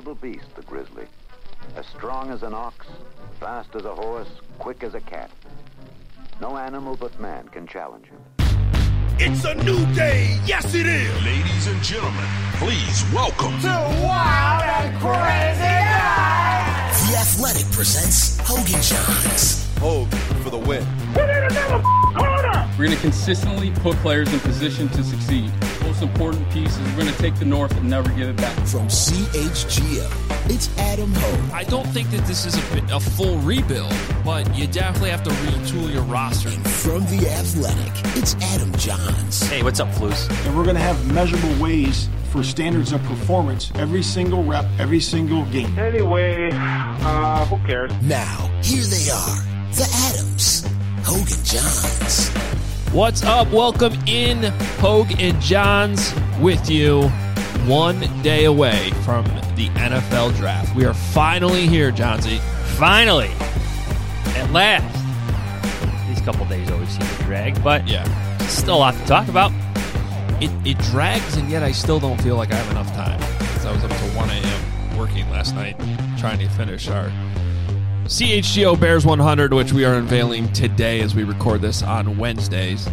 formidable beast, the grizzly. As strong as an ox, fast as a horse, quick as a cat. No animal but man can challenge him. It's a new day. Yes, it is. Ladies and gentlemen, please welcome to Wild and Crazy Guys. The Athletic presents Hogan Johns. Hogan for the win. Put in another corner. We're going to consistently put players in position to succeed. Most important piece is we're going to take the North and never give it back. From CHGO, it's Adam Hogue. I don't think that this is a full rebuild, but you definitely have to retool your roster. And from The Athletic, it's Adam Johns. Hey, what's up, Flus? And we're going to have measurable ways for standards of performance every single rep, every single game. Anyway, who cares? Now, here they are, the Adams, Hogan Johns. What's up? Welcome in, Hogue and Johns with you 1 day away from the NFL draft. We are finally here, Johnsy. Finally. At last. These couple days always seem to drag, but yeah, still a lot to talk about. It drags, and yet I still don't feel like I have enough time. Because I was up till 1 a.m. working last night trying to finish our CHGO Bears 100, which we are unveiling today as we record this on Wednesdays.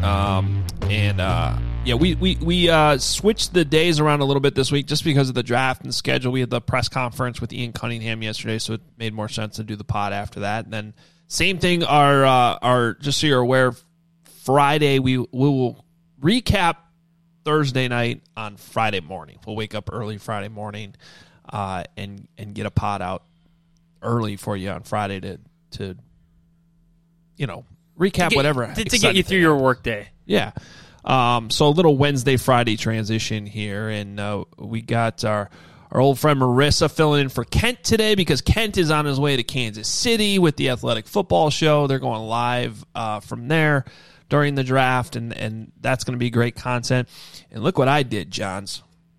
We switched the days around a little bit this week just because of the draft and the schedule. We had the press conference with Ian Cunningham yesterday, so it made more sense to do the pod after that. And then same thing, our just so you're aware, Friday we will recap Thursday night on Friday morning. We'll wake up early Friday morning and get a pod out early for you on Friday to recap whatever to get you through your work day. Yeah. So a little Wednesday Friday transition here, and we got our old friend Marissa filling in for Kent today because Kent is on his way to Kansas City with the Athletic Football Show. They're going live from there during the draft, and that's going to be great content. And look what I did, Johns.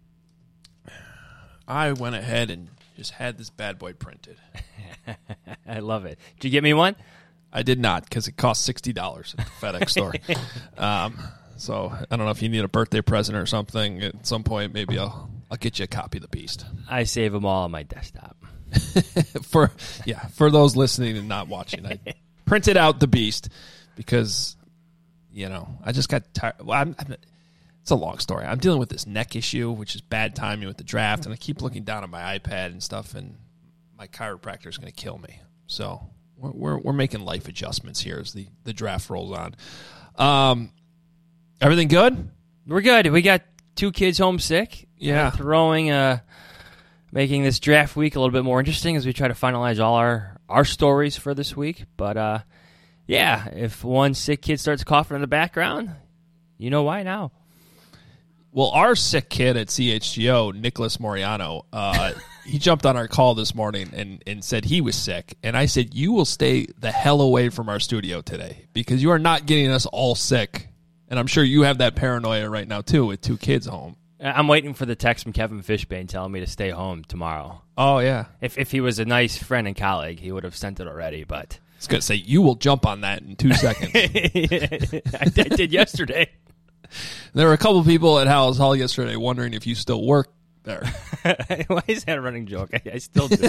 I went ahead and just had this bad boy printed. I love it. Did you get me one? I did not, because it cost $60 at the FedEx store. So I don't know if you need a birthday present or something. At some point, maybe I'll get you a copy of the Beast. I save them all on my desktop. For those listening and not watching, I printed out the Beast because I just got tired. Well, it's a long story. I'm dealing with this neck issue, which is bad timing with the draft, and I keep looking down at my iPad and stuff, and my chiropractor is going to kill me. So we're making life adjustments here as the draft rolls on. Everything good? We're good. We got 2 kids home sick. Yeah. Making this draft week a little bit more interesting as we try to finalize all our stories for this week. But, if one sick kid starts coughing in the background, you know why now. Well, our sick kid at CHGO, Nicholas Moriano, he jumped on our call this morning and said he was sick. And I said, you will stay the hell away from our studio today because you are not getting us all sick. And I'm sure you have that paranoia right now, too, with 2 kids home. I'm waiting for the text from Kevin Fishbane telling me to stay home tomorrow. Oh, yeah. If he was a nice friend and colleague, he would have sent it already. But I was going to say, you will jump on that in 2 seconds. I did yesterday. There were a couple people at Howell's Hall yesterday wondering if you still work there. Why is that a running joke? I still do.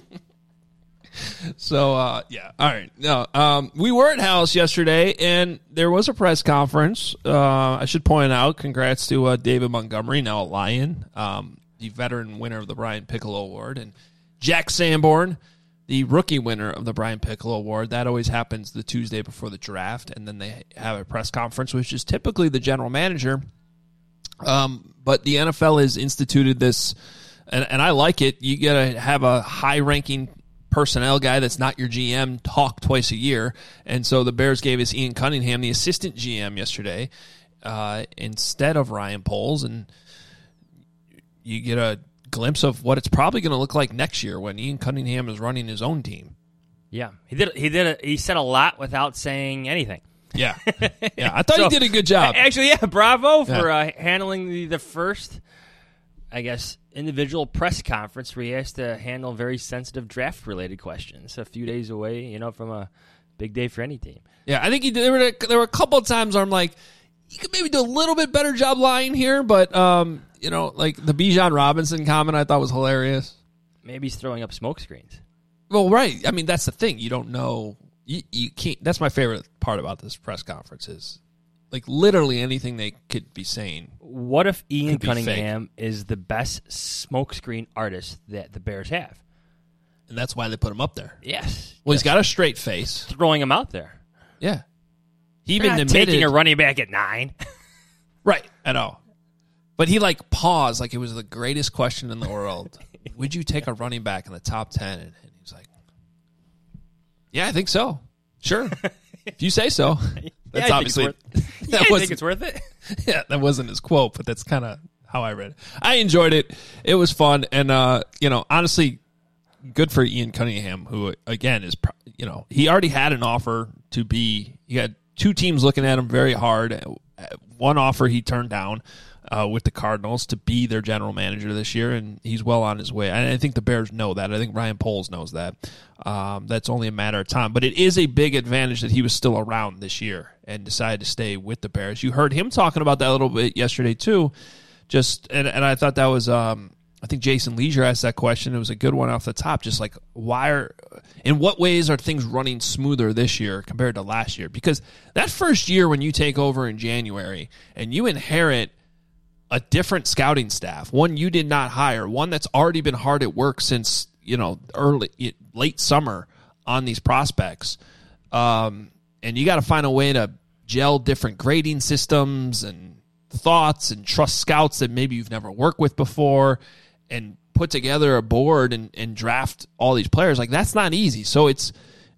So, All right. No, we were at Howell's yesterday, and there was a press conference. I should point out, congrats to David Montgomery, now a Lion, the veteran winner of the Brian Piccolo Award, and Jack Sanborn, the rookie winner of the Brian Piccolo Award. That always happens the Tuesday before the draft, and then they have a press conference, which is typically the general manager. But the NFL has instituted this, and I like it. You got to have a high-ranking personnel guy that's not your GM talk twice a year. And so the Bears gave us Ian Cunningham, the assistant GM, yesterday, instead of Ryan Poles, and you get a glimpse of what it's probably going to look like next year when Ian Cunningham is running his own team. Yeah, he said a lot without saying anything. Yeah, I thought he did a good job. Actually, bravo for handling the first, I guess, individual press conference where he has to handle very sensitive draft-related questions a few days away, from a big day for any team. Yeah, I think he did. There were a couple of times where I'm like, you could maybe do a little bit better job lying here, but like the Bijan Robinson comment I thought was hilarious. Maybe he's throwing up smoke screens. Well, right. I mean, that's the thing. You don't know. You can't. That's my favorite part about this press conference is, like, literally anything they could be saying. What if Ian Cunningham is the best smokescreen artist that the Bears have? And that's why they put him up there. Yes. Well, he's got a straight face. Throwing him out there. Yeah. He even admitted taking a running back at 9. Right. I know. But he, like, paused like it was the greatest question in the world. Would you take a running back in the top 10? And he was like, yeah, I think so. Sure. If you say so. That's obviously. I think it's worth it. Yeah, that wasn't his quote, but that's kind of how I read it. I enjoyed it. It was fun. And, honestly, good for Ian Cunningham, who, again, is, he already had an offer to be, he had 2 teams looking at him very hard. One offer he turned down with the Cardinals to be their general manager this year, and he's well on his way. And I think the Bears know that. I think Ryan Poles knows that. That's only a matter of time. But it is a big advantage that he was still around this year and decided to stay with the Bears. You heard him talking about that a little bit yesterday, too. And I thought that was I think Jason Leisure asked that question. It was a good one off the top. Just like, in what ways are things running smoother this year compared to last year? Because that first year when you take over in January and you inherit a different scouting staff, one you did not hire, one that's already been hard at work since, late summer on these prospects. And you got to find a way to gel different grading systems and thoughts and trust scouts that maybe you've never worked with before and put together a board and draft all these players. Like, that's not easy. So it's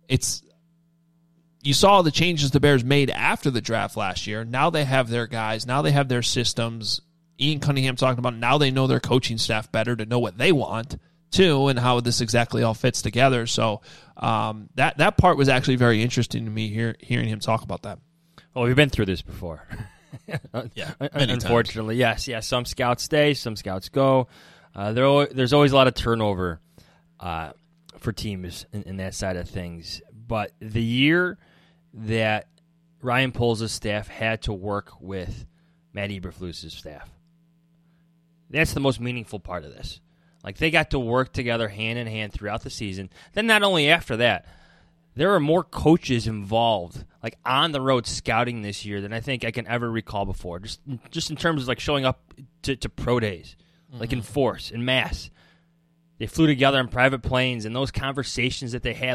you saw the changes the Bears made after the draft last year. Now they have their guys. Now they have their systems. Ian Cunningham talking about now they know their coaching staff better to know what they want too and how this exactly all fits together. So that part was actually very interesting to me hearing him talk about that. Well, we've been through this before. Yeah, unfortunately, yes. Some scouts stay, some scouts go. There's always a lot of turnover for teams in that side of things. But the year that Ryan Poles' staff had to work with Matt Eberflus's staff, that's the most meaningful part of this. Like, they got to work together hand in hand throughout the season. Then not only after that, there are more coaches involved, like, on the road scouting this year than I think I can ever recall before. Just in terms of, like, showing up to pro days, like, in force, in mass. They flew together in private planes, and those conversations that they had,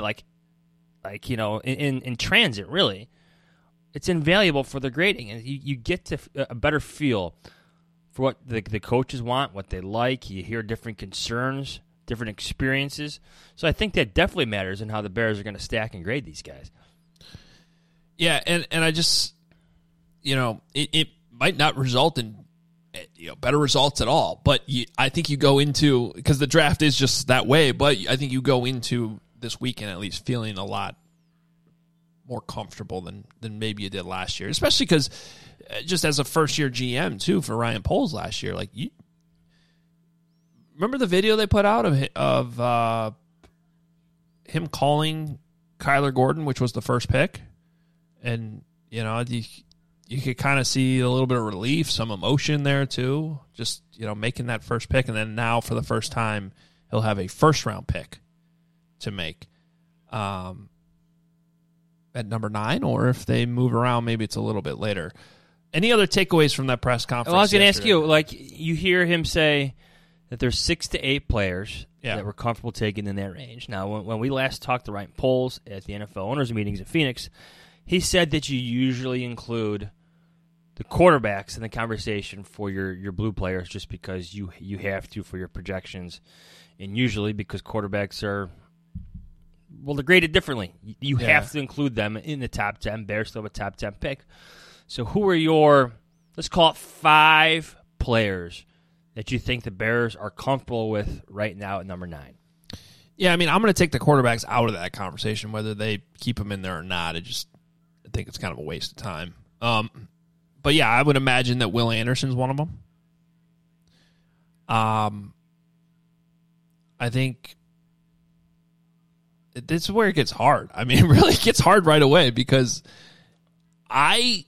in transit, really, it's invaluable for the grading. And you get to a better feel for what the coaches want, what they like. You hear different concerns, different experiences. So I think that definitely matters in how the Bears are going to stack and grade these guys. Yeah, and I just, it might not result in better results at all. But I think you go into, because the draft is just that way, but I think you go into this weekend at least feeling a lot more comfortable than maybe you did last year, especially because just as a first-year GM, too, for Ryan Poles last year, like, you remember the video they put out of him calling Kyler Gordon, which was the first pick? And, you could kind of see a little bit of relief, some emotion there, too, just, making that first pick. And then now, for the first time, he'll have a first-round pick to make at number 9, or if they move around, maybe it's a little bit later. Any other takeaways from that press conference? Well, I was going to ask you, you hear him say that there's 6 to 8 players that we're comfortable taking in that range. Now, when we last talked to Ryan Poles at the NFL owners' meetings in Phoenix, he said that you usually include the quarterbacks in the conversation for your blue players just because you have to for your projections, and usually because quarterbacks are, they're graded differently. You have to include them in the top 10. Bears still have a top 10 pick. So who are your, let's call it 5 players that you think the Bears are comfortable with right now at number 9? Yeah, I mean, I'm going to take the quarterbacks out of that conversation, whether they keep them in there or not. I think it's kind of a waste of time. But yeah, I would imagine that Will Anderson's one of them. I think this is where it gets hard. I mean, it really gets hard right away because I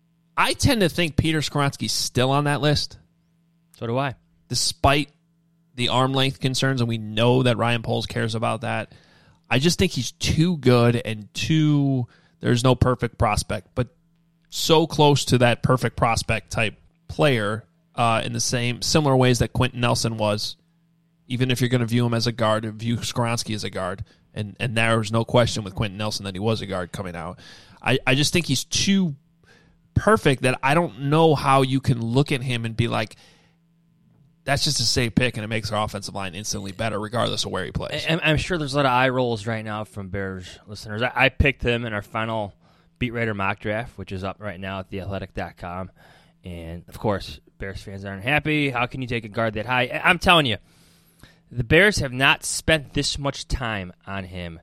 tend to think Peter Skoronski's still on that list. So do I. Despite the arm length concerns, and we know that Ryan Poles cares about that. I just think he's too good and there's no perfect prospect, but so close to that perfect prospect type player in the similar ways that Quentin Nelson was, even if you're going to view him as a guard, view Skoronski as a guard. And there's no question with Quentin Nelson that he was a guard coming out. I just think he's too perfect that I don't know how you can look at him and be like, that's just a safe pick, and it makes our offensive line instantly better, regardless of where he plays. I'm sure there's a lot of eye rolls right now from Bears listeners. I picked him in our final Beat Writer mock draft, which is up right now at theathletic.com. And, of course, Bears fans aren't happy. How can you take a guard that high? I'm telling you, the Bears have not spent this much time on him.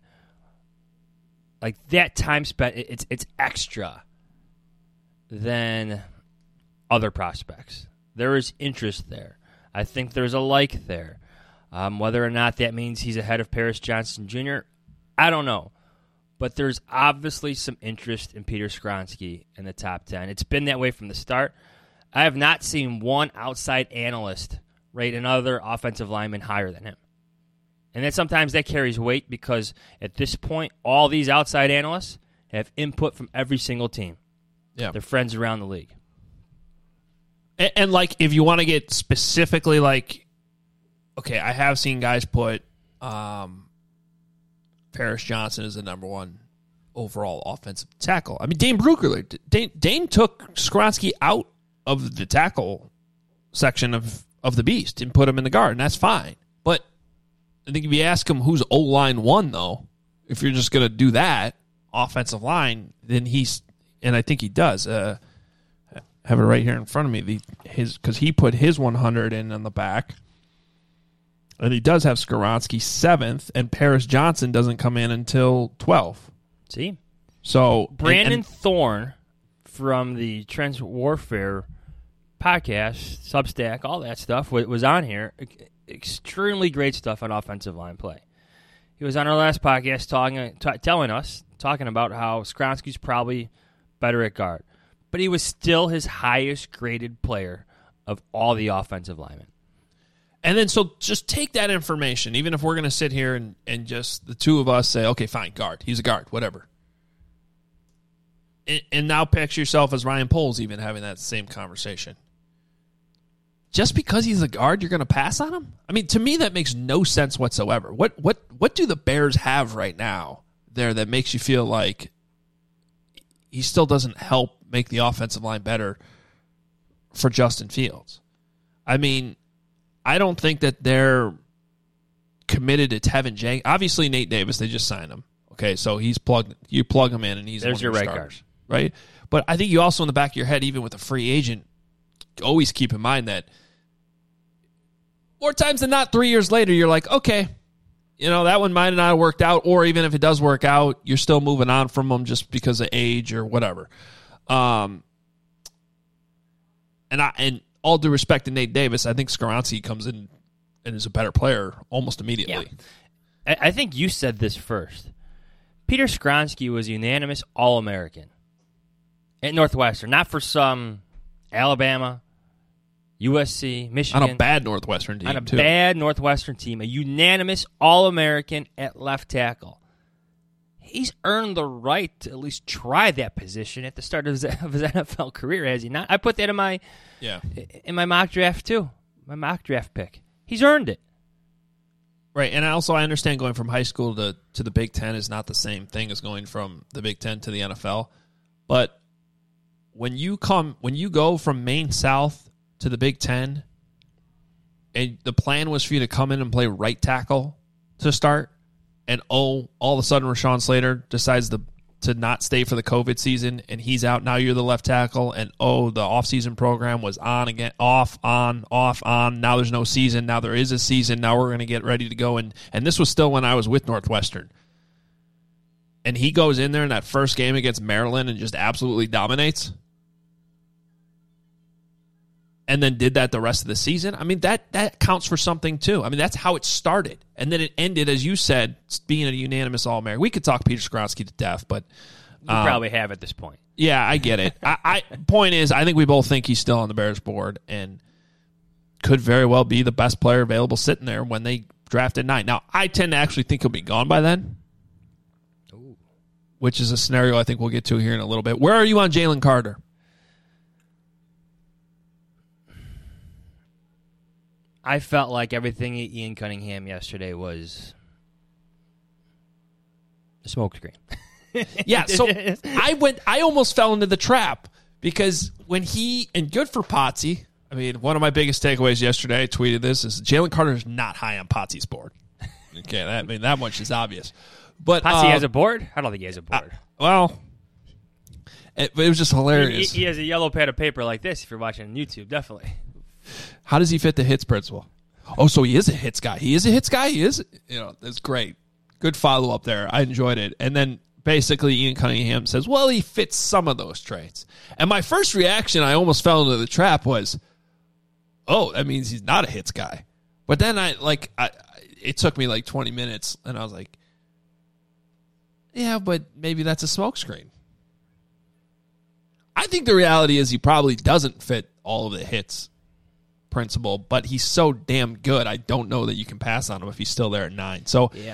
Like, that time spent, it's extra than other prospects. There is interest there. I think there's a like there. Whether or not that means he's ahead of Paris Johnson Jr., I don't know. But there's obviously some interest in Peter Skoronski in the top 10. It's been that way from the start. I have not seen one outside analyst rate another offensive lineman higher than him. And then sometimes that carries weight because at this point, all these outside analysts have input from every single team. Yeah. They're friends around the league. And like, if you want to get specifically like, okay, I have seen guys put Paris Johnson as the number one overall offensive tackle. I mean, Dane Brugler, Dane took Skoronski out of the tackle section of the beast and put him in the guard, and that's fine. But I think if you ask him who's O-line one, though, if you're just going to do that, offensive line, then and I think he does. Have it right here in front of me, because he put his 100 in on the back. And he does have Skoronski 7th, and Paris Johnson doesn't come in until 12th. See? So Brandon Thorne from the Trends Warfare podcast, Substack, all that stuff was on here. Extremely great stuff on offensive line play. He was on our last podcast talking about how Skoronski's probably better at guard. But he was still his highest graded player of all the offensive linemen. And then so just take that information, even if we're going to sit here and just the two of us say, okay, fine, guard. He's a guard, whatever. And now picture yourself as Ryan Poles even having that same conversation. Just because he's a guard, you're going to pass on him? I mean, to me, that makes no sense whatsoever. What do the Bears have right now there that makes you feel like he still doesn't help make the offensive line better for Justin Fields? I mean, I don't think that they're committed to Tevin Jenkins. Obviously, Nate Davis, they just signed him. Okay, so he's plugged. You plug him in, and he's there's your right guard, right? But I think you also, in the back of your head, even with a free agent, always keep in mind that more times than not, 3 years later, you're like, okay, that one might not have worked out, or even if it does work out, you're still moving on from them just because of age or whatever. And all due respect to Nate Davis, I think Skoronski comes in and is a better player almost immediately. Yeah. I think you said this first. Peter Skoronski was a unanimous All-American at Northwestern, not for some Alabama, USC, Michigan. On a bad Northwestern team, bad Northwestern team, a unanimous All-American at left tackle. He's earned the right to at least try that position at the start of his NFL career, has he not? I put that in my mock draft, too. My mock draft pick. He's earned it. Right, and I understand going from high school to the Big Ten is not the same thing as going from the Big Ten to the NFL. But when you go from Maine South to the Big Ten, and the plan was for you to come in and play right tackle to start, and all of a sudden Rashawn Slater decides to not stay for the COVID season, and he's out. Now you're the left tackle, and the offseason program was on again, off, on, off, on. Now there's no season. Now there is a season. Now we're going to get ready to go. And this was still when I was with Northwestern. And he goes in there in that first game against Maryland and just absolutely dominates. And then did that the rest of the season. I mean, that counts for something too. I mean, that's how it started. And then it ended, as you said, being a unanimous All-American. We could talk Peter Skoronski to death, but we probably have at this point. Yeah, I get it. Point is, I think we both think he's still on the Bears board. And could very well be the best player available sitting there when they draft at 9. Now, I tend to actually think he'll be gone by then, which is a scenario I think we'll get to here in a little bit. Where are you on Jalen Carter? I felt like everything Ian Cunningham yesterday was a smokescreen. Yeah, so I almost fell into the trap because when and good for Potsy. I mean, one of my biggest takeaways yesterday, I tweeted this, is Jalen Carter is not high on Potsy's board. Okay, that much is obvious. But Potsy has a board? I don't think he has a board. It was just hilarious. He has a yellow pad of paper like this if you're watching on YouTube, definitely. How does he fit the hits principle? Oh, so he is a hits guy. He is a hits guy? He is? That's great. Good follow-up there. I enjoyed it. And then basically Ian Cunningham says, well, he fits some of those traits. And my first reaction, I almost fell into the trap, was, oh, that means he's not a hits guy. But then it took me like 20 minutes, and I was like, yeah, but maybe that's a smokescreen. I think the reality is he probably doesn't fit all of the hits principle, but he's so damn good, I don't know that you can pass on him if he's still there at 9. So yeah.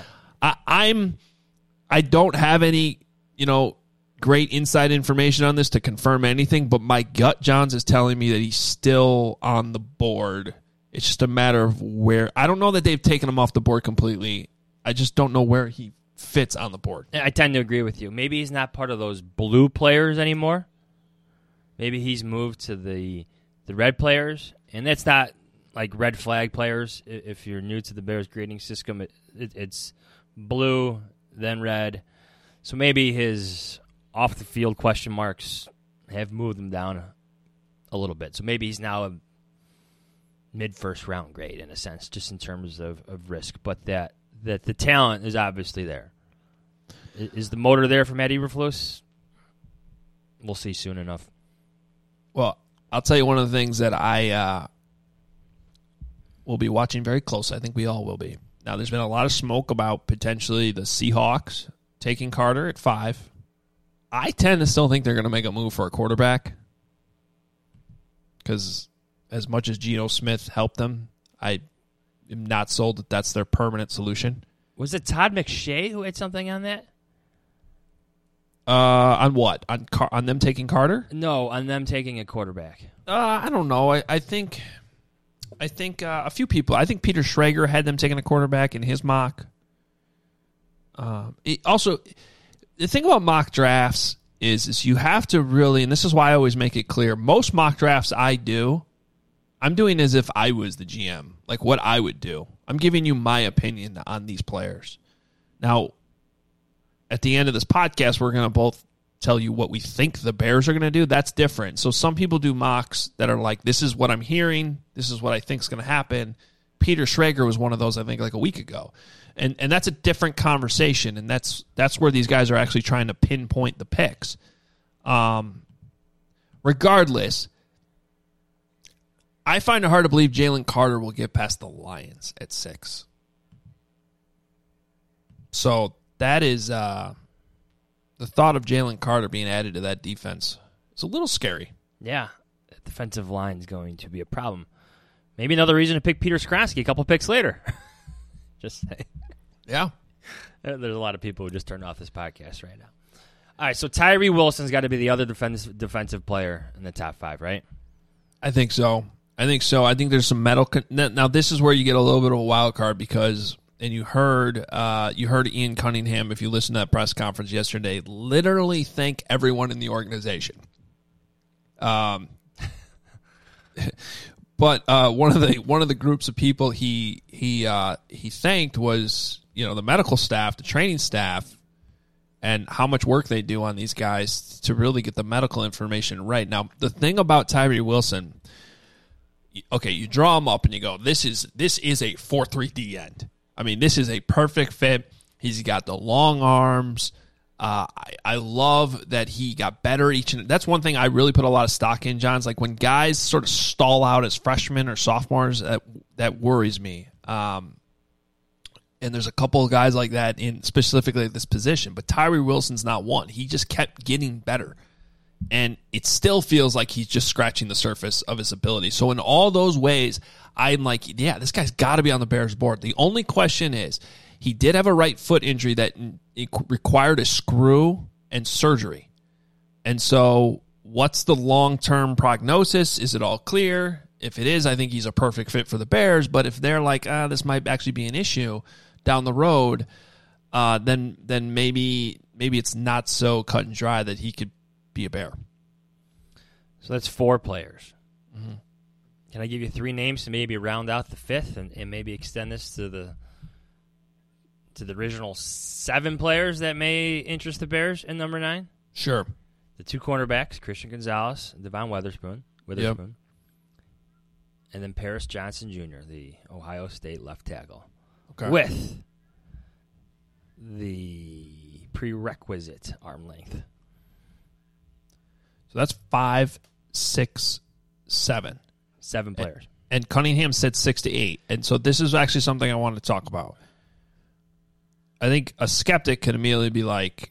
I don't have any, great inside information on this to confirm anything, but my gut, Johns, is telling me that he's still on the board. It's just a matter of where. I don't know that they've taken him off the board completely. I just don't know where he fits on the board. I tend to agree with you. Maybe he's not part of those blue players anymore. Maybe he's moved to the red players, and that's not like red flag players. If you're new to the Bears grading system, it's blue, then red. So maybe his off-the-field question marks have moved him down a little bit. So maybe he's now a mid-first round grade in a sense, just in terms of risk. But that the talent is obviously there. Is the motor there for Matt Eberflus? We'll see soon enough. Well, I'll tell you one of the things that I will be watching very closely. I think we all will be. Now, there's been a lot of smoke about potentially the Seahawks taking Carter at 5. I tend to still think they're going to make a move for a quarterback because as much as Geno Smith helped them, I am not sold that that's their permanent solution. Was it Todd McShay who had something on that? On what? On them taking Carter? No, on them taking a quarterback. I don't know. I think a few people. I think Peter Schrager had them taking a quarterback in his mock. Also, the thing about mock drafts is you have to really, and this is why I always make it clear, most mock drafts I do, I'm doing as if I was the GM, like what I would do. I'm giving you my opinion on these players. Now, at the end of this podcast, we're going to both tell you what we think the Bears are going to do. That's different. So some people do mocks that are like, this is what I'm hearing, this is what I think is going to happen. Peter Schrager was one of those, I think, like a week ago. And that's a different conversation, and that's where these guys are actually trying to pinpoint the picks. Regardless, I find it hard to believe Jalen Carter will get past the Lions at 6. So that is the thought of Jalen Carter being added to that defense is a little scary. Yeah, the defensive line is going to be a problem. Maybe another reason to pick Peter Skronsky a couple picks later. Just saying. Yeah. There's a lot of people who just turned off this podcast right now. All right, so Tyree Wilson's got to be the other defensive player in the top 5, right? I think so. I think there's some medical. Now, this is where you get a little bit of a wild card because, and you heard Ian Cunningham, if you listened to that press conference yesterday, literally thank everyone in the organization. But one of the groups of people he thanked was, the medical staff, the training staff, and how much work they do on these guys to really get the medical information right. Now, the thing about Tyree Wilson, okay, you draw him up and you go, this is a 4-3 D end. I mean, this is a perfect fit. He's got the long arms. I love that he got better each and that's one thing I really put a lot of stock in, John's. Like when guys sort of stall out as freshmen or sophomores, that worries me. And there's a couple of guys like that in specifically this position, but Tyree Wilson's not one. He just kept getting better. And it still feels like he's just scratching the surface of his ability. So in all those ways, I'm like, yeah, this guy's got to be on the Bears board. The only question is, he did have a right foot injury that required a screw and surgery. And so what's the long-term prognosis? Is it all clear? If it is, I think he's a perfect fit for the Bears. But if they're like, this might actually be an issue down the road, then maybe it's not so cut and dry that he could be a Bear. So that's 4 players. Mm-hmm. Can I give you 3 names to maybe round out the 5th and maybe extend this to the original 7 players that may interest the Bears in number 9? Sure. The 2 cornerbacks, Christian Gonzalez and Devon Witherspoon. Yep. And then Paris Johnson Jr., the Ohio State left tackle. Okay. With the prerequisite arm length. So that's 5, 6, 7. 7 players. And Cunningham said 6 to 8. And so this is actually something I wanted to talk about. I think a skeptic could immediately be like,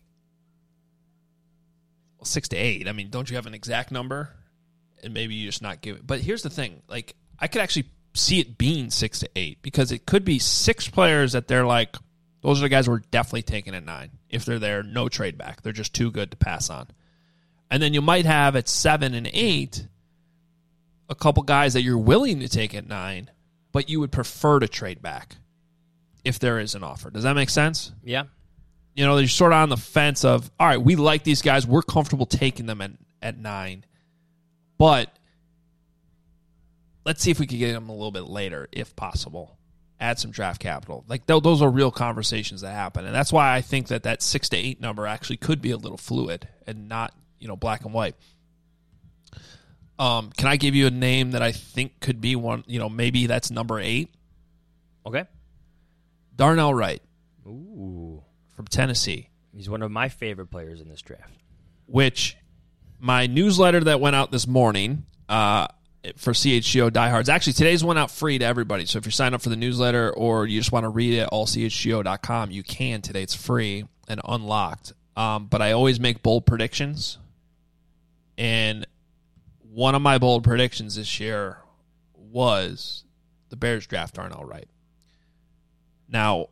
6 to 8. I mean, don't you have an exact number? And maybe you just not give it. But here's the thing. Like, I could actually see it being 6 to 8 because it could be 6 players that they're like, those are the guys we're definitely taking at 9. If they're there, no trade back. They're just too good to pass on. And then you might have at 7 and 8 a couple guys that you're willing to take at 9, but you would prefer to trade back if there is an offer. Does that make sense? Yeah. You know, you're sort of on the fence of, all right, we like these guys. We're comfortable taking them at 9. But let's see if we can get them a little bit later, if possible. Add some draft capital. Like, those are real conversations that happen. And that's why I think that 6 to 8 number actually could be a little fluid and not, black and white. Can I give you a name that I think could be one, maybe that's number 8? Okay. Darnell Wright. Ooh. From Tennessee. He's one of my favorite players in this draft. Which my newsletter that went out this morning for CHGO diehards, actually today's went out free to everybody. So if you sign up for the newsletter or you just want to read it at allchgo.com, you can today. It's free and unlocked. But I always make bold predictions. And one of my bold predictions this year was the Bears draft Darnell Wright. Now,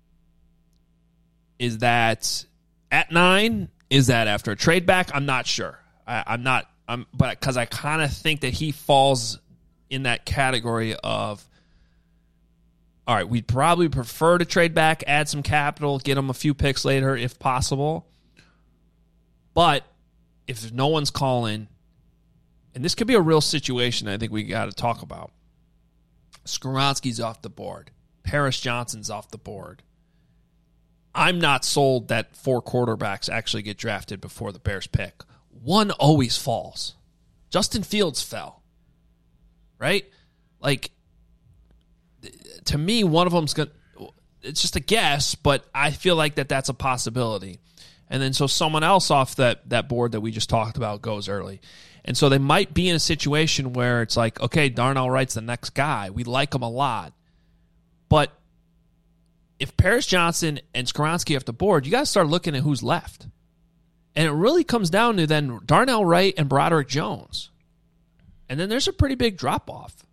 is that at 9? Is that after a trade back? I'm not sure. But because I kind of think that he falls in that category of, all right, we'd probably prefer to trade back, add some capital, get him a few picks later if possible. But if no one's calling, and this could be a real situation I think we got to talk about. Skoronski's off the board. Paris Johnson's off the board. I'm not sold that 4 quarterbacks actually get drafted before the Bears pick. One always falls. Justin Fields fell. Right? Like, to me, one of them's going to... It's just a guess, but I feel like that's a possibility. And then so someone else off that board that we just talked about goes early. And so they might be in a situation where it's like, okay, Darnell Wright's the next guy. We like him a lot. But if Paris Johnson and Skoronski off the board, you got to start looking at who's left. And it really comes down to then Darnell Wright and Broderick Jones. And then there's a pretty big drop-off.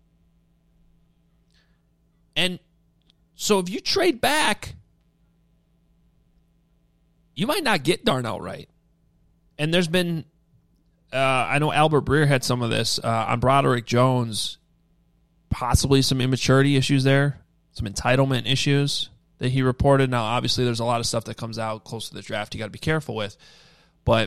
And so if you trade back, you might not get Darnell Wright. And there's been, I know Albert Breer had some of this on Broderick Jones, possibly some immaturity issues there, some entitlement issues that he reported. Now, obviously, there's a lot of stuff that comes out close to the draft you got to be careful with. But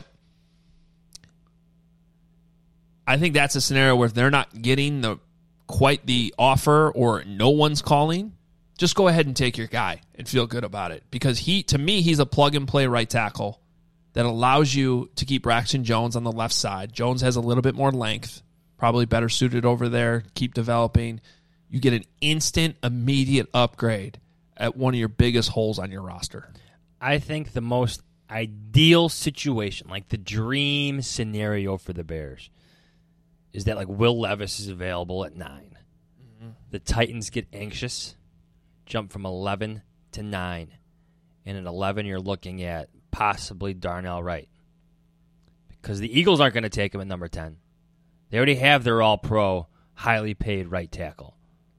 I think that's a scenario where if they're not getting quite the offer or no one's calling, just go ahead and take your guy and feel good about it. Because to me, he's a plug-and-play right tackle that allows you to keep Braxton Jones on the left side. Jones has a little bit more length, probably better suited over there, keep developing. You get an instant, immediate upgrade at one of your biggest holes on your roster. I think the most ideal situation, like the dream scenario for the Bears, is that like Will Levis is available at 9. Mm-hmm. The Titans get anxious, jump from 11 to 9. And at 11, you're looking at possibly Darnell Wright. because the Eagles aren't going to take him at number 10. They already have their all-pro, highly paid right tackle.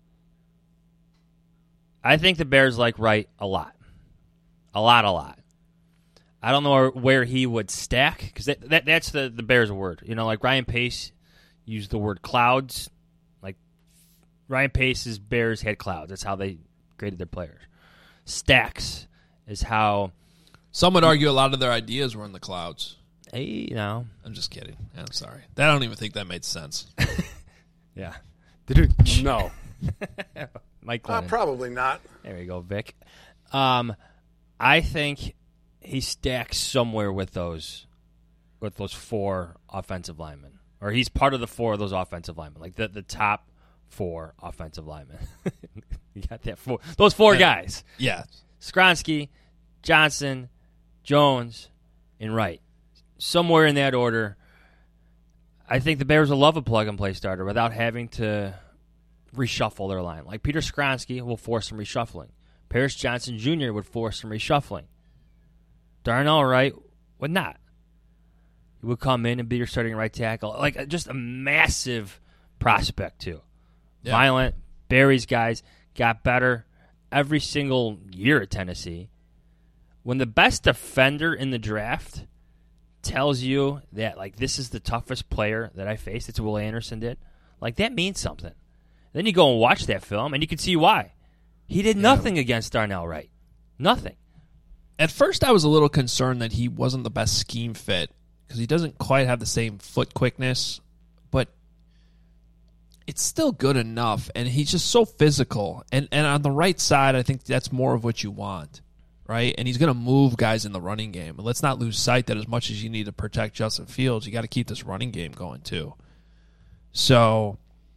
I think the Bears like Wright a lot. A lot. I don't know where he would stack, because that's the Bears word. You know, like Ryan Pace used the word clouds. Like Ryan Pace's Bears had clouds. That's how they graded their players. Stacks is how... Some would argue a lot of their ideas were in the clouds. Hey, no. I'm just kidding. I'm sorry. I don't even think that made sense. Yeah. No. Mike Glennon. Probably not. There you go, Vic. I think he stacks somewhere with those 4 offensive linemen. Or he's part of the 4 of those offensive linemen. Like the top 4 offensive linemen. You got that 4. Those 4 guys. Yeah. Skronsky, Johnson, Jones, and Wright. Somewhere in that order. I think the Bears will love a plug-and-play starter without having to reshuffle their line. Like Peter Skronsky will force some reshuffling. Paris Johnson Jr. would force some reshuffling. Darnell Wright would not. He would come in and be your starting right tackle. Like, just a massive prospect, too. Yeah. Violent. Barry's guys got better every single year at Tennessee. When the best defender in the draft tells you that, like, this is the toughest player that I faced, it's Will Anderson did, like, that means something. Then you go and watch that film, and you can see why. He did nothing against Darnell Wright. Nothing. At first, I was a little concerned that he wasn't the best scheme fit because he doesn't quite have the same foot quickness, but it's still good enough, and he's just so physical. And on the right side, I think that's more of what you want, right? And he's going to move guys in the running game. And let's not lose sight that as much as you need to protect Justin Fields, you got to keep this running game going too. So,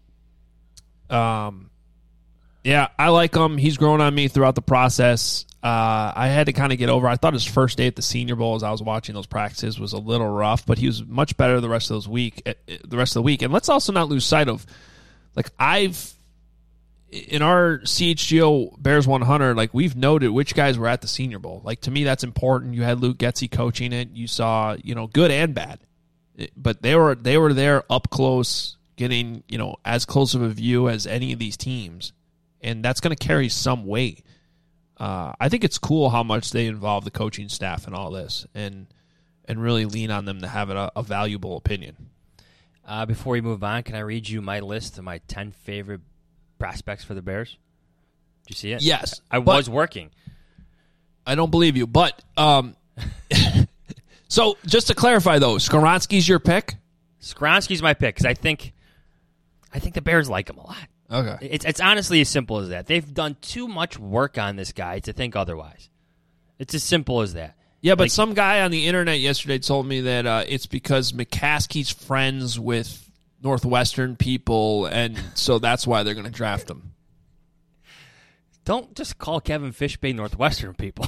yeah, I like him. He's grown on me throughout the process. I had to kind of get over. I thought his first day at the Senior Bowl, as I was watching those practices, was a little rough, but he was much better the rest of the week. And let's also not lose sight of, like, in our CHGO Bears 100, like, we've noted which guys were at the Senior Bowl. Like, to me, that's important. You had Luke Getsy coaching it. You saw, good and bad, but they were there up close, getting, as close of a view as any of these teams. And that's going to carry some weight. I think it's cool how much they involve the coaching staff in all this and really lean on them to have a valuable opinion. Before we move on, can I read you my list of my 10 favorite prospects for the Bears? Did you see it? Yes. I was working. I don't believe you. But so just to clarify, though, Skronsky's your pick? Skronsky's my pick because I think the Bears like him a lot. Okay. It's honestly as simple as that. They've done too much work on this guy to think otherwise. It's as simple as that. Yeah, but some guy on the internet yesterday told me that it's because McCaskey's friends with Northwestern people, and so that's why they're going to draft him. Don't just call Kevin Fishbane Northwestern people.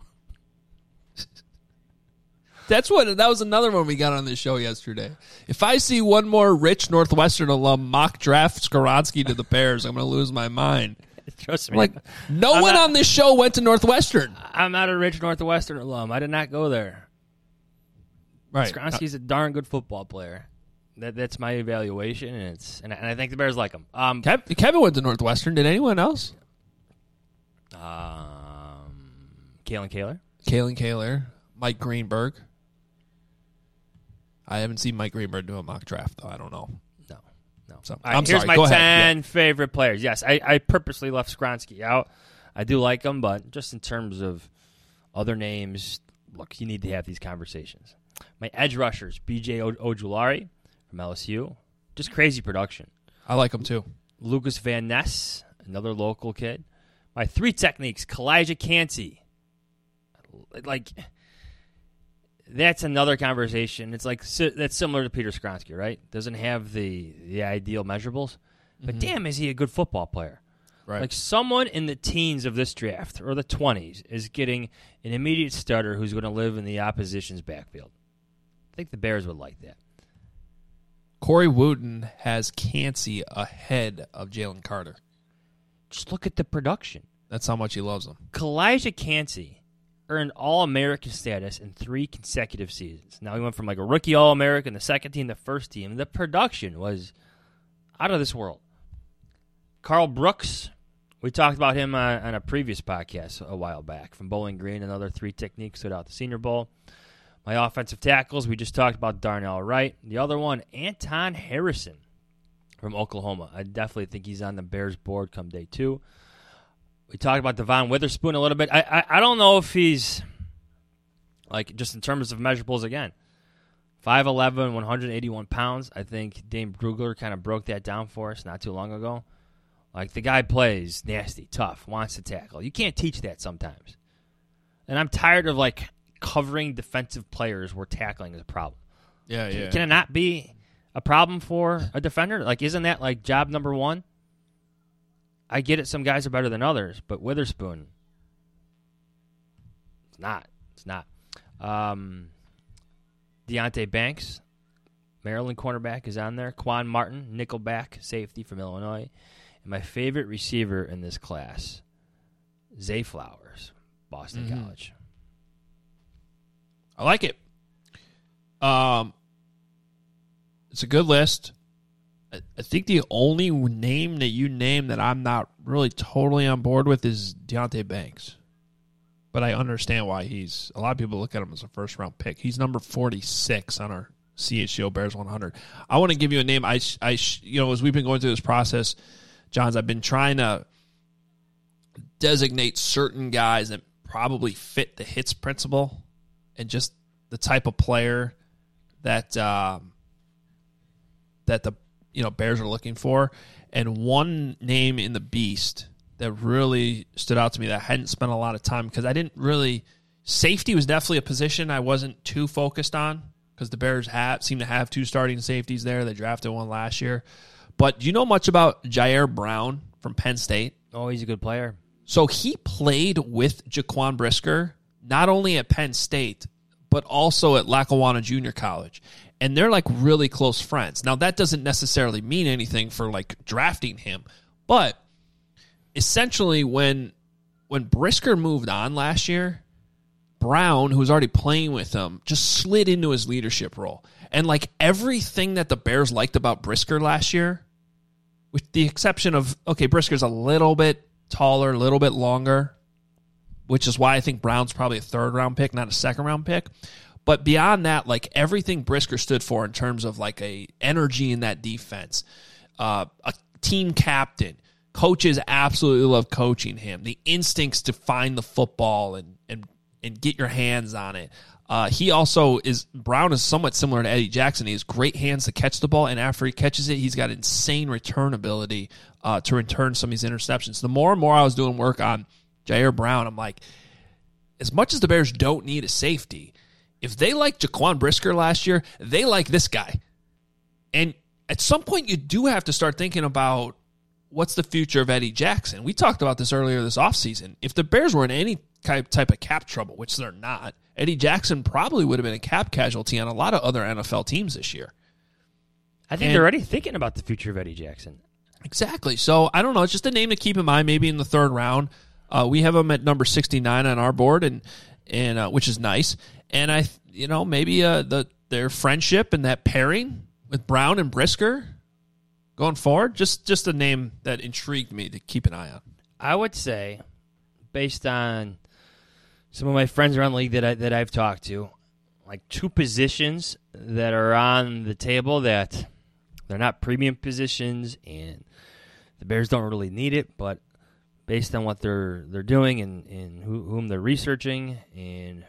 That was another one we got on this show yesterday. If I see one more rich Northwestern alum mock draft Skronsky to the Bears, I'm going to lose my mind. Trust me. Like, no one on this show went to Northwestern. I'm not a rich Northwestern alum. I did not go there. Right. Skronsky's a darn good football player. That's my evaluation, and I think the Bears like him. Kevin went to Northwestern. Did anyone else? Kalen Kaler. Kalen Kaler. Mike Greenberg. I haven't seen Mike Greenberg do a mock draft, though. I don't know. No. So, I'm sorry. Here's my Go 10 favorite players. Yes, I purposely left Skronsky out. I do like him, but just in terms of other names, look, you need to have these conversations. My edge rushers, B.J. Ojulari from LSU. Just crazy production. I like him, too. Lucas Van Ness, another local kid. My 3 techniques, Kalijah Kancey. Like, that's another conversation. It's like that's similar to Peter Skronsky, right? Doesn't have the ideal measurables, but damn, is he a good football player? Right. Like, someone in the teens of this draft or the 20s is getting an immediate starter who's going to live in the opposition's backfield. I think the Bears would like that. Corey Wooten has Kancey ahead of Jalen Carter. Just look at the production. That's how much he loves him. Kalijah Kancey earned All-American status in 3 consecutive seasons. Now, he went from like a rookie All-American, the second team, the first team. The production was out of this world. Carl Brooks, we talked about him on a previous podcast a while back, from Bowling Green, another 3 techniques stood out the Senior Bowl. My offensive tackles, we just talked about Darnell Wright. The other one, Anton Harrison from Oklahoma. I definitely think he's on the Bears board come day 2. We talked about Devon Witherspoon a little bit. I don't know if he's, like, just in terms of measurables again, 5'11", 181 pounds. I think Dane Brugler kind of broke that down for us not too long ago. Like, the guy plays nasty, tough, wants to tackle. You can't teach that sometimes. And I'm tired of, like, covering defensive players where tackling is a problem. Yeah. Can it not be a problem for a defender? Like, isn't that, like, job number 1? I get it, some guys are better than others, but Witherspoon, it's not. Deonte Banks, Maryland cornerback, is on there. Quan Martin, nickelback safety from Illinois. And my favorite receiver in this class, Zay Flowers, Boston College. I like it. It's a good list. I think the only name that you name that I'm not really totally on board with is Deonte Banks. But I understand why a lot of people look at him as a first-round pick. He's number 46 on our CHGO Bears 100. I want to give you a name. As we've been going through this process, Johns, I've been trying to designate certain guys that probably fit the hits principle and just the type of player that the Bears are looking for. And one name in the Beast that really stood out to me that I hadn't spent a lot of time, because I didn't really – safety was definitely a position I wasn't too focused on, because the Bears seem to have 2 starting safeties there. They drafted one last year. But do you know much about Jair Brown from Penn State? Oh, he's a good player. So he played with Jaquan Brisker, not only at Penn State, but also at Lackawanna Junior College. And they're like really close friends. Now, that doesn't necessarily mean anything for like drafting him, but essentially when Brisker moved on last year, Brown, who was already playing with him, just slid into his leadership role. And like everything that the Bears liked about Brisker last year, with the exception of, okay, Brisker's a little bit taller, a little bit longer, which is why I think Brown's probably a 3rd-round pick, not a 2nd-round pick. But beyond that, like everything Brisker stood for in terms of like a energy in that defense, a team captain, coaches absolutely love coaching him. The instincts to find the football and get your hands on it. Brown is somewhat similar to Eddie Jackson. He has great hands to catch the ball, and after he catches it, he's got insane return ability to return some of these interceptions. The more and more I was doing work on Jair Brown, I'm like, as much as the Bears don't need a safety, if they liked Jaquan Brisker last year, they like this guy. And at some point, you do have to start thinking about what's the future of Eddie Jackson. We talked about this earlier this offseason. If the Bears were in any type of cap trouble, which they're not, Eddie Jackson probably would have been a cap casualty on a lot of other NFL teams this year. I think they're already thinking about the future of Eddie Jackson. Exactly. So, I don't know. It's just a name to keep in mind, maybe in the 3rd round. We have him at number 69 on our board, and which is nice. And maybe their friendship and that pairing with Brown and Brisker going forward, just a name that intrigued me to keep an eye on. I would say, based on some of my friends around the league that I've talked to, like 2 positions that are on the table that they're not premium positions, and the Bears don't really need it, but based on what they're doing and whom they're researching, and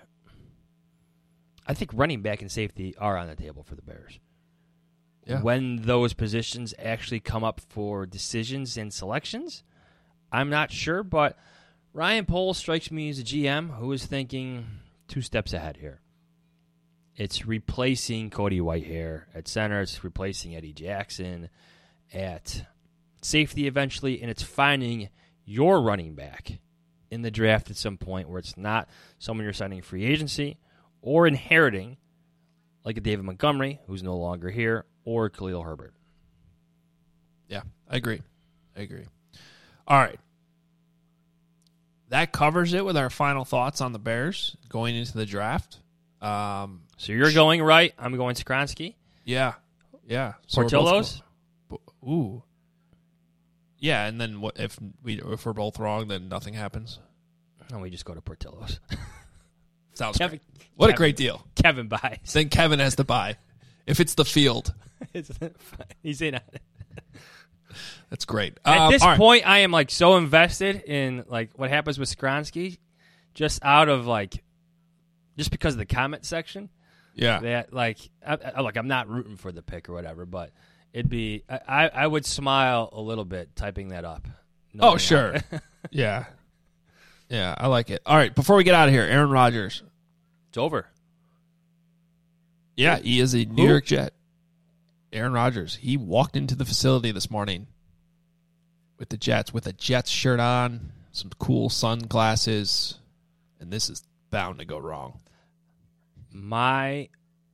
I think running back and safety are on the table for the Bears. Yeah. When those positions actually come up for decisions and selections, I'm not sure, but Ryan Poles strikes me as a GM who is thinking 2 steps ahead here. It's replacing Cody Whitehair at center. It's replacing Eddie Jackson at safety eventually, and it's finding your running back in the draft at some point where it's not someone you're signing free agency or inheriting, like a David Montgomery, who's no longer here, or Khalil Herbert. Yeah, I agree. All right. that covers it with our final thoughts on the Bears going into the draft. So you're going right. I'm going Skoronski. Yeah. So Portillo's. Ooh. Yeah, and then what if we're both wrong? Then nothing happens. And we just go to Portillo's. Sounds great. What a great deal. Kevin buys. Then Kevin has to buy. If it's the field. He's in on it. That's great. At this point, I am like so invested in like what happens with Skoronski, just because of the comment section. Yeah. That I'm not rooting for the pick or whatever, but it'd be I would smile a little bit typing that up. Oh sure. Yeah. Yeah, I like it. All right, before we get out of here, Aaron Rodgers. It's over. Yeah, he is a New York Jet. Aaron Rodgers. He walked into the facility this morning with the Jets, with a Jets shirt on, some cool sunglasses, and this is bound to go wrong. My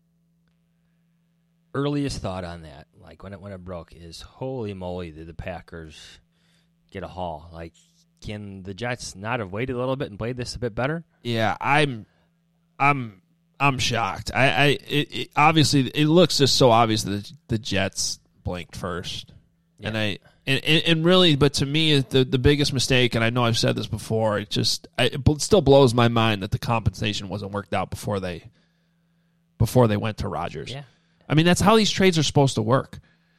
earliest thought on that, like when it broke, is holy moly, did the Packers get a haul? Like, can the Jets not have waited a little bit and played this a bit better? Yeah, I'm shocked. It obviously it looks just so obvious that the Jets blinked first, yeah. and really, but to me, the biggest mistake, and I know I've said this before, it still blows my mind that the compensation wasn't worked out before they went to Rodgers. Yeah, I mean that's how these trades are supposed to work.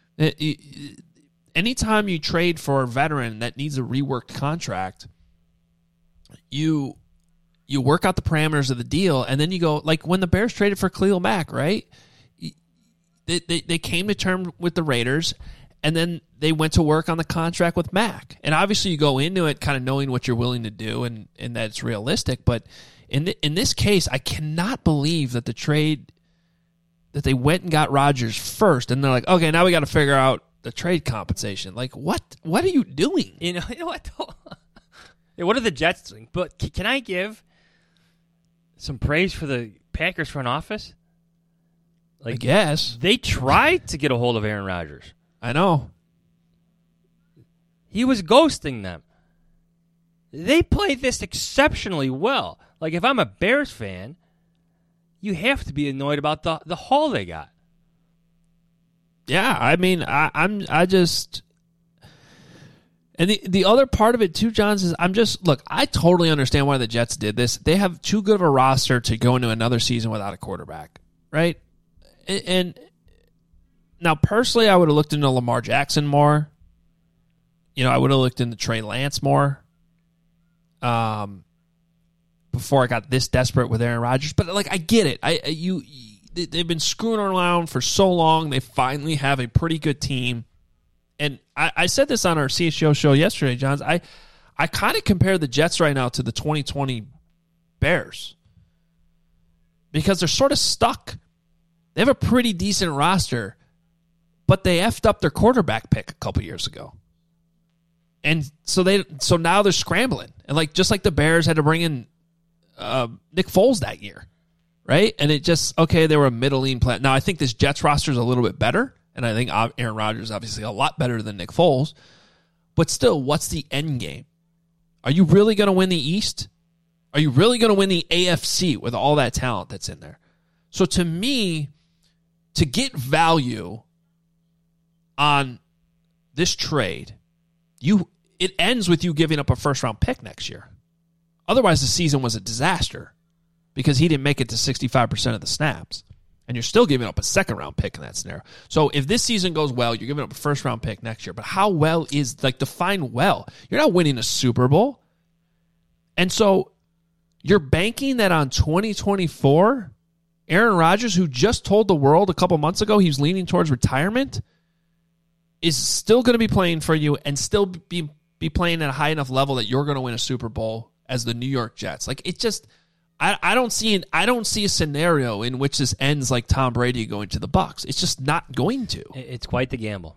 Anytime you trade for a veteran that needs a reworked contract, you work out the parameters of the deal, and then you go, like when the Bears traded for Khalil Mack, right? They came to terms with the Raiders, and then they went to work on the contract with Mack. And obviously you go into it kind of knowing what you're willing to do and that it's realistic. But in this case, I cannot believe that the trade, that they went and got Rodgers first, and they're like, okay, now we got to figure out the trade compensation. Like, what are you doing? You know what? What are the Jets doing? But can I give some praise for the Packers front office? Like, I guess. They tried to get a hold of Aaron Rodgers. I know. He was ghosting them. They played this exceptionally well. Like, if I'm a Bears fan, you have to be annoyed about the haul they got. Yeah, I mean, I just, and the other part of it too, Johns, is I totally understand why the Jets did this. They have too good of a roster to go into another season without a quarterback, right? And now, personally, I would have looked into Lamar Jackson more. You know, I would have looked into Trey Lance more. Before I got this desperate with Aaron Rodgers, but like I get it. They've been screwing around for so long. They finally have a pretty good team. And I said this on our CHGO show yesterday, Johns. I kind of compare the Jets right now to the 2020 Bears because they're sort of stuck. They have a pretty decent roster, but they effed up their quarterback pick a couple years ago. And so now they're scrambling. And just like the Bears had to bring in Nick Foles that year. Right? And it just, okay, they were a middling plan. Now, I think this Jets roster is a little bit better, and I think Aaron Rodgers is obviously a lot better than Nick Foles. But still, what's the end game? Are you really going to win the East? Are you really going to win the AFC with all that talent that's in there? So to me, to get value on this trade, it ends with you giving up a first-round pick next year. Otherwise, the season was a disaster. Because he didn't make it to 65% of the snaps. And you're still giving up a second-round pick in that scenario. So if this season goes well, you're giving up a first-round pick next year. But how well is, define well? You're not winning a Super Bowl. And so you're banking that on 2024, Aaron Rodgers, who just told the world a couple months ago he was leaning towards retirement, is still going to be playing for you and still be playing at a high enough level that you're going to win a Super Bowl as the New York Jets. It just... I don't see a scenario in which this ends like Tom Brady going to the Bucs. It's just not going to. It's quite the gamble.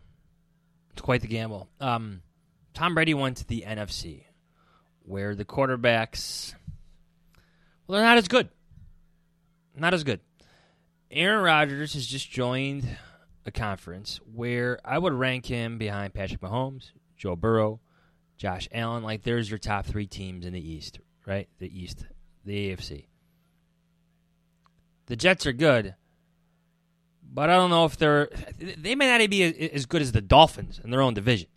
Tom Brady went to the NFC, where the quarterbacks, they're not as good. Not as good. Aaron Rodgers has just joined a conference where I would rank him behind Patrick Mahomes, Joe Burrow, Josh Allen. Like, there's your top 3 teams in the East, right? The East, the AFC. The Jets are good, but I don't know if they may not be as good as the Dolphins in their own division.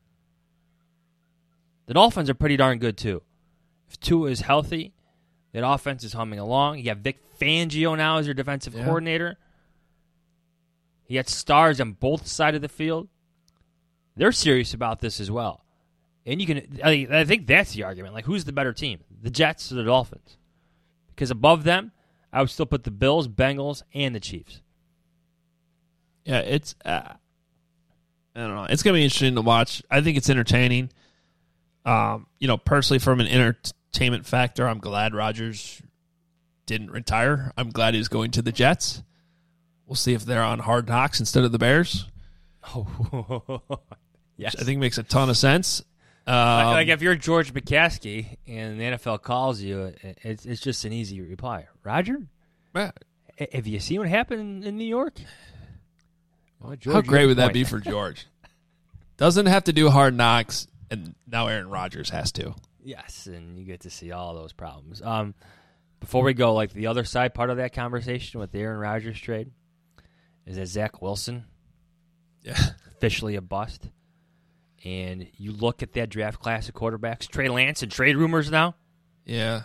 The Dolphins are pretty darn good, too. If Tua is healthy, that offense is humming along. You got Vic Fangio now as your defensive coordinator. You got stars on both sides of the field. They're serious about this as well. And I think that's the argument. Like, who's the better team? The Jets or the Dolphins? Because above them, I would still put the Bills, Bengals, and the Chiefs. Yeah, it's I don't know. It's going to be interesting to watch. I think it's entertaining. Personally, from an entertainment factor, I'm glad Rodgers didn't retire. I'm glad he's going to the Jets. We'll see if they're on Hard Knocks instead of the Bears. Oh, yes. Which I think makes a ton of sense. Like if you're George McCaskey and the NFL calls you, it's just an easy reply. Roger, have you seen what happened in New York? Well, George, how great would that be for George? Doesn't have to do Hard Knocks, and now Aaron Rodgers has to. Yes, and you get to see all those problems. Before we go, like the other side part of that conversation with the Aaron Rodgers trade is that Zach Wilson, officially a bust. And you look at that draft class of quarterbacks, Trey Lance and trade rumors now. Yeah.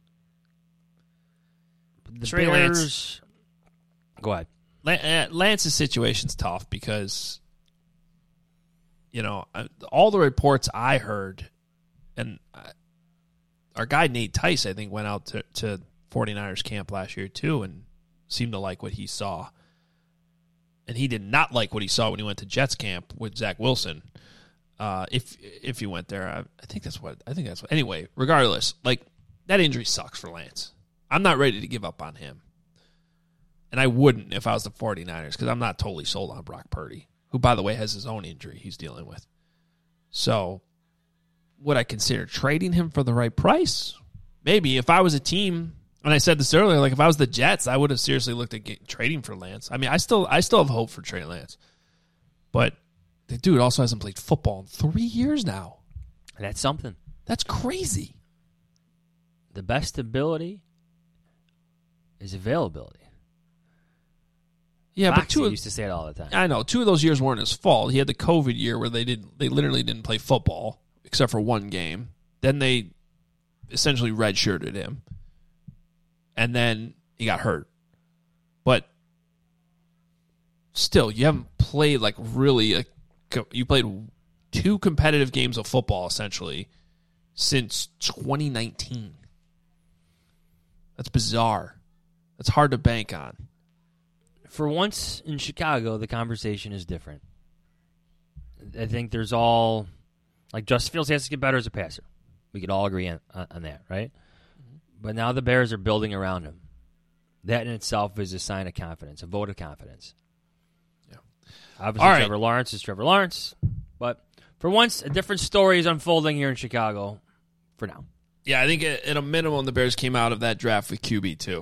The Trey Bears, go ahead. Lance's situation's tough because, all the reports I heard, and our guy Nate Tice, I think, went out to 49ers camp last year too and seemed to like what he saw. And he did not like what he saw when he went to Jets camp with Zach Wilson. If he went there, I think that's what. Anyway, regardless, like that injury sucks for Lance. I'm not ready to give up on him, and I wouldn't if I was the 49ers because I'm not totally sold on Brock Purdy, who, by the way, has his own injury he's dealing with. So, would I consider trading him for the right price? Maybe if I was a team, and I said this earlier, like if I was the Jets, I would have seriously looked at trading for Lance. I mean, I still have hope for Trey Lance, but the dude also hasn't played football in 3 years now. And that's something. That's crazy. The best ability is availability. Yeah, Foxy but used to say it all the time. I know. 2 of those years weren't his fault. He had the COVID year where they literally didn't play football except for one game. Then they essentially redshirted him. And then he got hurt. But still, you haven't played like really you played 2 competitive games of football essentially since 2019. That's bizarre. That's hard to bank on. For once in Chicago, the conversation is different. I think there's all, like Justin Fields has to get better as a passer. We could all agree on that, right? Mm-hmm. But now the Bears are building around him. That in itself is a sign of confidence, a vote of confidence. Yeah. Obviously, Trevor Lawrence is Trevor Lawrence. But for once, a different story is unfolding here in Chicago for now. Yeah, I think at a minimum, the Bears came out of that draft with QB, too,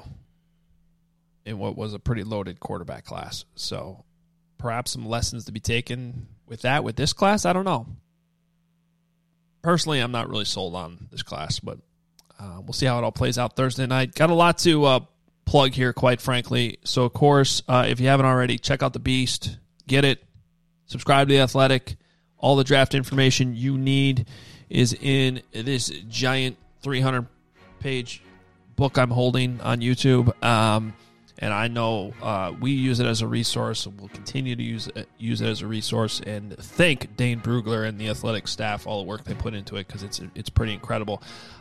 in what was a pretty loaded quarterback class. So perhaps some lessons to be taken with this class. I don't know. Personally, I'm not really sold on this class, but we'll see how it all plays out Thursday night. Got a lot to plug here, quite frankly. So, of course, if you haven't already, check out The Beast. Get it. Subscribe to The Athletic. All the draft information you need is in this giant 300-page book I'm holding on YouTube. And I know we use it as a resource, and we'll continue to use it as a resource. And thank Dane Brugler and the Athletic staff, all the work they put into it, because it's pretty incredible.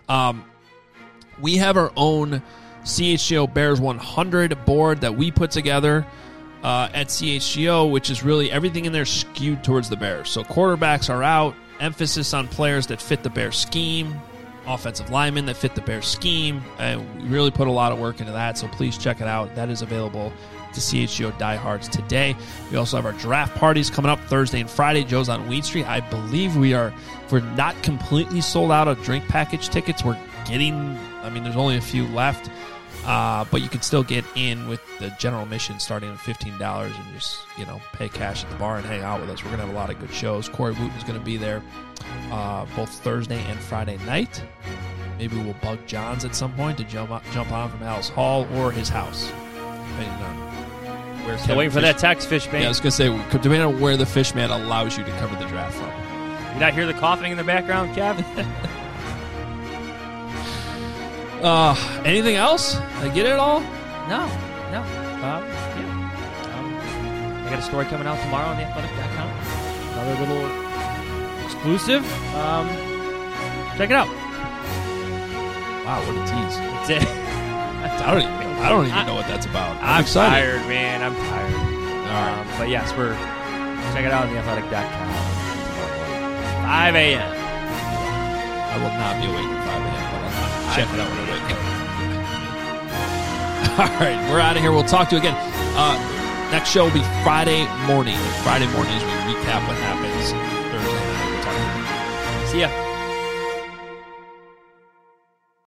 We have our own CHGO Bears 100 board that we put together at CHGO, which is really everything in there skewed towards the Bears. So quarterbacks are out, emphasis on players that fit the Bears scheme, offensive linemen that fit the Bears scheme, and we really put a lot of work into that, so please check it out. That is available to CHGO diehards today. We also have our draft parties coming up Thursday and Friday. Joe's on Weed Street. I believe we're not completely sold out of drink package tickets. We're getting, there's only a few left, but you can still get in with the general admission starting at $15 and just, pay cash at the bar and hang out with us. We're going to have a lot of good shows. Corey Wooten's going to be there. both Thursday and Friday night. Maybe we'll bug Johns at some point to jump on from Alice Hall or his house. Depending on where Still waiting for that text, Fishman. Yeah, I was going to say, depending on where the Fishman allows you to cover the draft from. You not hear the coughing in the background, Kev? Anything else? Did I get it all? No. I got a story coming out tomorrow on theathletic.com. Another little exclusive. Check it out. Wow, what a tease. That's it. I don't even know what that's about. I'm excited. tired, man. I'm tired. All right. But yes, check it out on theathletic.com. 5 a.m. I will not be awake at 5 a.m., but I'll check it out when I wake up. All right, we're out of here. We'll talk to you again. Next show will be Friday morning. Friday morning as we recap what happens Thursday night. We'll talk to you. See ya.